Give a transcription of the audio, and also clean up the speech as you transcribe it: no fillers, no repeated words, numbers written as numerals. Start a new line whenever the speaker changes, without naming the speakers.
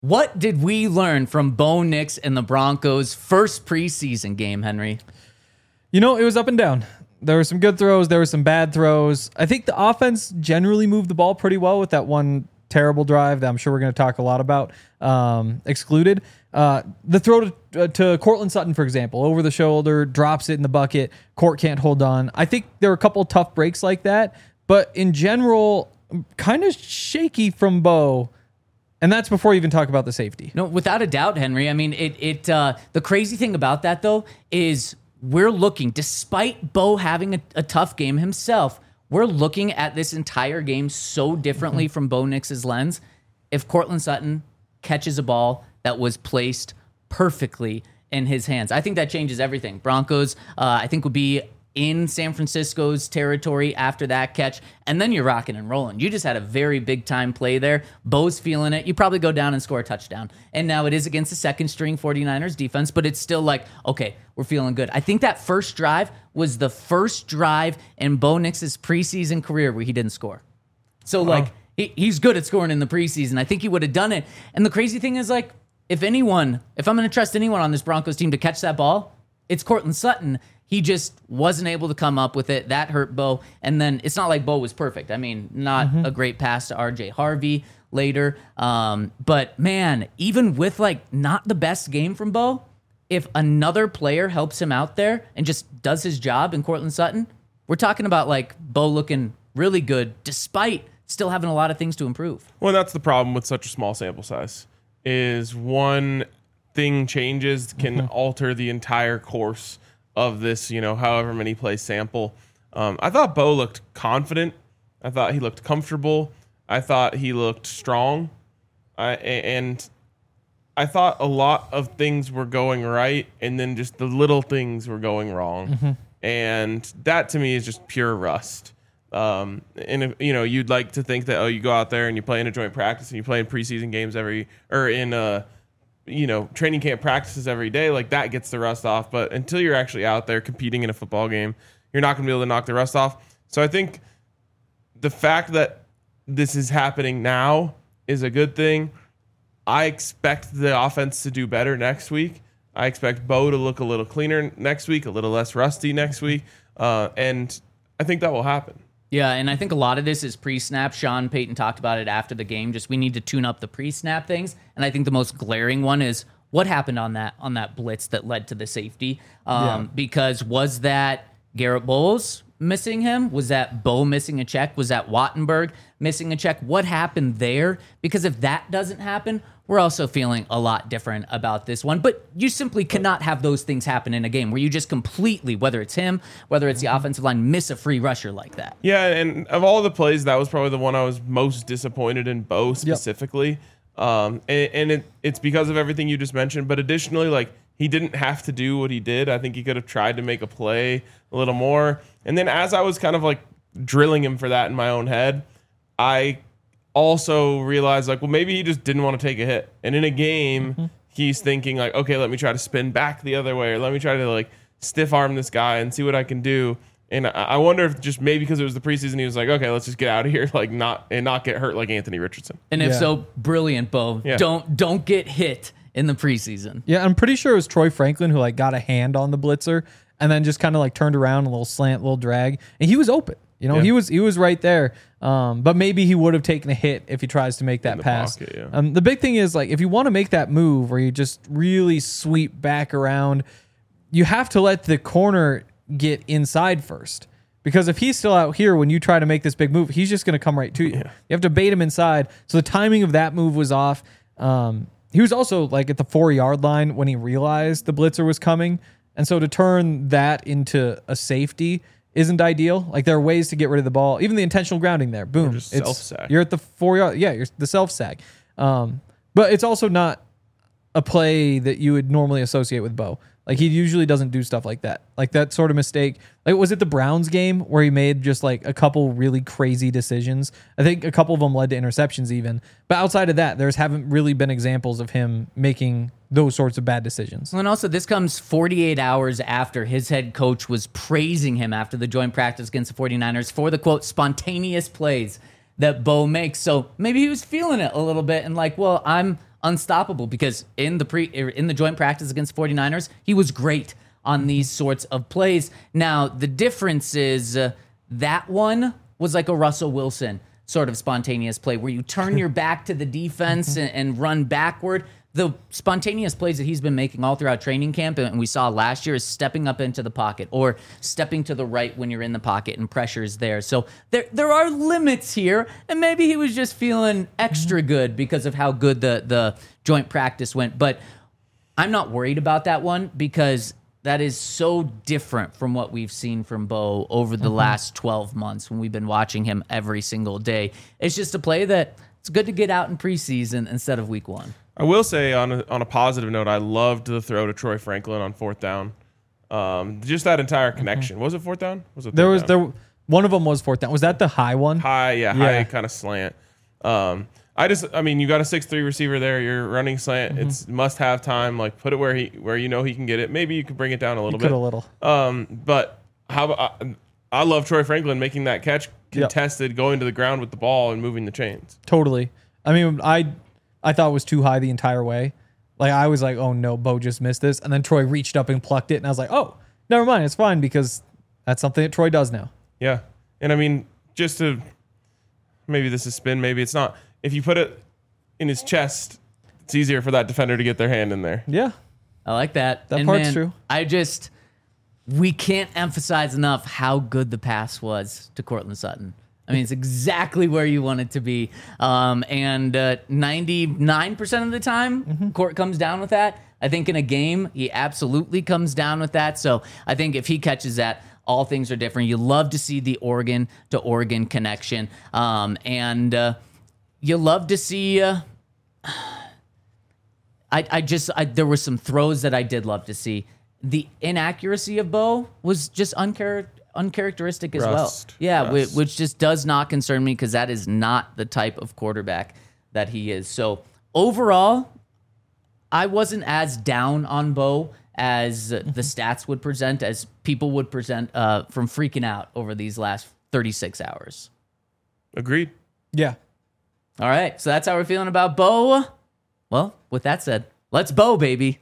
What did we learn from Bo Nix and the Broncos' first preseason game, Henry?
It was up and down. There were some good throws. There were some bad throws. I think the offense generally moved the ball pretty well with that one terrible drive that I'm sure we're going to talk a lot about, excluded. The throw to Courtland Sutton, for example, over the shoulder, drops it in the bucket. Court can't hold on. I think there were a couple tough breaks like that, but in general, kind of shaky from Bo. And that's before you even talk about the safety.
No, without a doubt, Henry. I mean, the crazy thing about that, though, is we're looking, despite Bo having a tough game himself, we're looking at this entire game so differently from Bo Nix's lens. If Courtland Sutton catches a ball that was placed perfectly in his hands, I think that changes everything. Broncos, I think, would be in San Francisco's territory after that catch, and then you're rocking and rolling. You just had a very big-time play there. Bo's feeling it. You probably go down and score a touchdown. And now it is against the second-string 49ers defense, but it's still like, okay, we're feeling good. I think that first drive was the first drive in Bo Nix's preseason career where he didn't score. So, he's good at scoring in the preseason. I think he would have done it. And the crazy thing is, if I'm going to trust anyone on this Broncos team to catch that ball, it's Courtland Sutton. He just wasn't able to come up with it. That hurt Bo. And then it's not like Bo was perfect. I mean, not a great pass to RJ Harvey later. But man, even with not the best game from Bo, if another player helps him out there and just does his job in Courtland Sutton, we're talking about Bo looking really good despite still having a lot of things to improve.
Well, that's the problem with such a small sample size, is one thing changes can alter the entire course of this, however many play sample. I thought Bo looked confident. I thought he looked comfortable. I thought he looked strong. And I thought a lot of things were going right, and then just the little things were going wrong. And that to me is just pure rust. And if, you'd like to think that, you go out there and you play in a joint practice and you play in preseason games training camp practices every day, that gets the rust off. But until you're actually out there competing in a football game, you're not going to be able to knock the rust off. So I think the fact that this is happening now is a good thing. I expect the offense to do better next week. I expect Bo to look a little cleaner next week, a little less rusty next week. And I think that will happen.
Yeah, and I think a lot of this is pre-snap. Sean Payton talked about it after the game. Just we need to tune up the pre-snap things. And I think the most glaring one is what happened on that blitz that led to the safety. Because was that Garrett Bowles missing him? Was that Bo missing a check? Was that Wattenberg missing a check? What happened there? Because if that doesn't happen, we're also feeling a lot different about this one. But you simply cannot have those things happen in a game where you just completely, whether it's him, whether it's the offensive line, miss a free rusher like that.
Yeah, and of all the plays, that was probably the one I was most disappointed in Bo specifically. Yep. It's because of everything you just mentioned. But additionally, he didn't have to do what he did. I think he could have tried to make a play a little more. And then as I was kind of drilling him for that in my own head, I also realized maybe he just didn't want to take a hit. And in a game, he's thinking okay, let me try to spin back the other way, or let me try to stiff arm this guy and see what I can do. And I wonder if just maybe because it was the preseason, he was okay, let's just get out of here, not get hurt like Anthony Richardson.
And if so, brilliant, Bo. Yeah. Don't get hit in the preseason.
Yeah, I'm pretty sure it was Troy Franklin who got a hand on the blitzer and then just kind of turned around, a little slant, a little drag, and he was open. He was right there. But maybe he would have taken a hit if he tries to make that pass.
Pocket, yeah.
The big thing is if you want to make that move where you just really sweep back around, you have to let the corner get inside first. Because if he's still out here when you try to make this big move, he's just going to come right to you. Yeah. You have to bait him inside. So the timing of that move was off. He was also at the 4-yard line when he realized the blitzer was coming. And so to turn that into a safety isn't ideal. There are ways to get rid of the ball. Even the intentional grounding there. Boom.
It's self-sack.
You're at the 4-yard. Yeah, you're the self-sack. But it's also not a play that you would normally associate with Bo. He usually doesn't do stuff like that. That sort of mistake. Was it the Browns game where he made just a couple really crazy decisions? I think a couple of them led to interceptions even. But outside of that, there's haven't really been examples of him making those sorts of bad decisions.
And also, this comes 48 hours after his head coach was praising him after the joint practice against the 49ers for the, quote, spontaneous plays that Bo makes. So maybe he was feeling it a little bit and I'm unstoppable because in the joint practice against 49ers, he was great on these sorts of plays. Now, the difference is that one was like a Russell Wilson sort of spontaneous play where you turn your back to the defense and run backward. The spontaneous plays that he's been making all throughout training camp and we saw last year is stepping up into the pocket or stepping to the right when you're in the pocket and pressure is there. So there are limits here, and maybe he was just feeling extra good because of how good the joint practice went. But I'm not worried about that one because that is so different from what we've seen from Bo over the last 12 months when we've been watching him every single day. It's just a play that it's good to get out in preseason instead of week 1.
I will say on a positive note, I loved the throw to Troy Franklin on 4th down. Just that entire connection. Was it 4th down? Was it third down?
One of them was 4th down. Was that the high one?
High kind of slant. You got a 6'3" receiver there. You're running slant. It's must have time. Like put it where you know he can get it. Maybe you could bring it down a little bit.
A little.
But I love Troy Franklin making that catch contested, going to the ground with the ball and moving the chains.
Totally. I mean, I thought it was too high the entire way. Like I was like, oh no, Bo just missed this. And then Troy reached up and plucked it. And I was like, oh, never mind. It's fine because that's something that Troy does now.
Yeah. And I mean, just to, maybe this is spin, maybe it's not. If you put it in his chest, it's easier for that defender to get their hand in there.
Yeah.
I like that.
That part's true.
We can't emphasize enough how good the pass was to Courtland Sutton. I mean, it's exactly where you want it to be. And 99% of the time, Court comes down with that. I think in a game, he absolutely comes down with that. So I think if he catches that, all things are different. You love to see the Oregon to Oregon connection. And you love to see... there were some throws that I did love to see. The inaccuracy of Bo was just uncharacteristic as well. Yeah, which just does not concern me because that is not the type of quarterback that he is. So overall, I wasn't as down on Bo as the stats would present, as people would present from freaking out over these last 36 hours.
Agreed.
Yeah.
All right, so that's how we're feeling about Bo. Well, with that said, let's Bo, baby.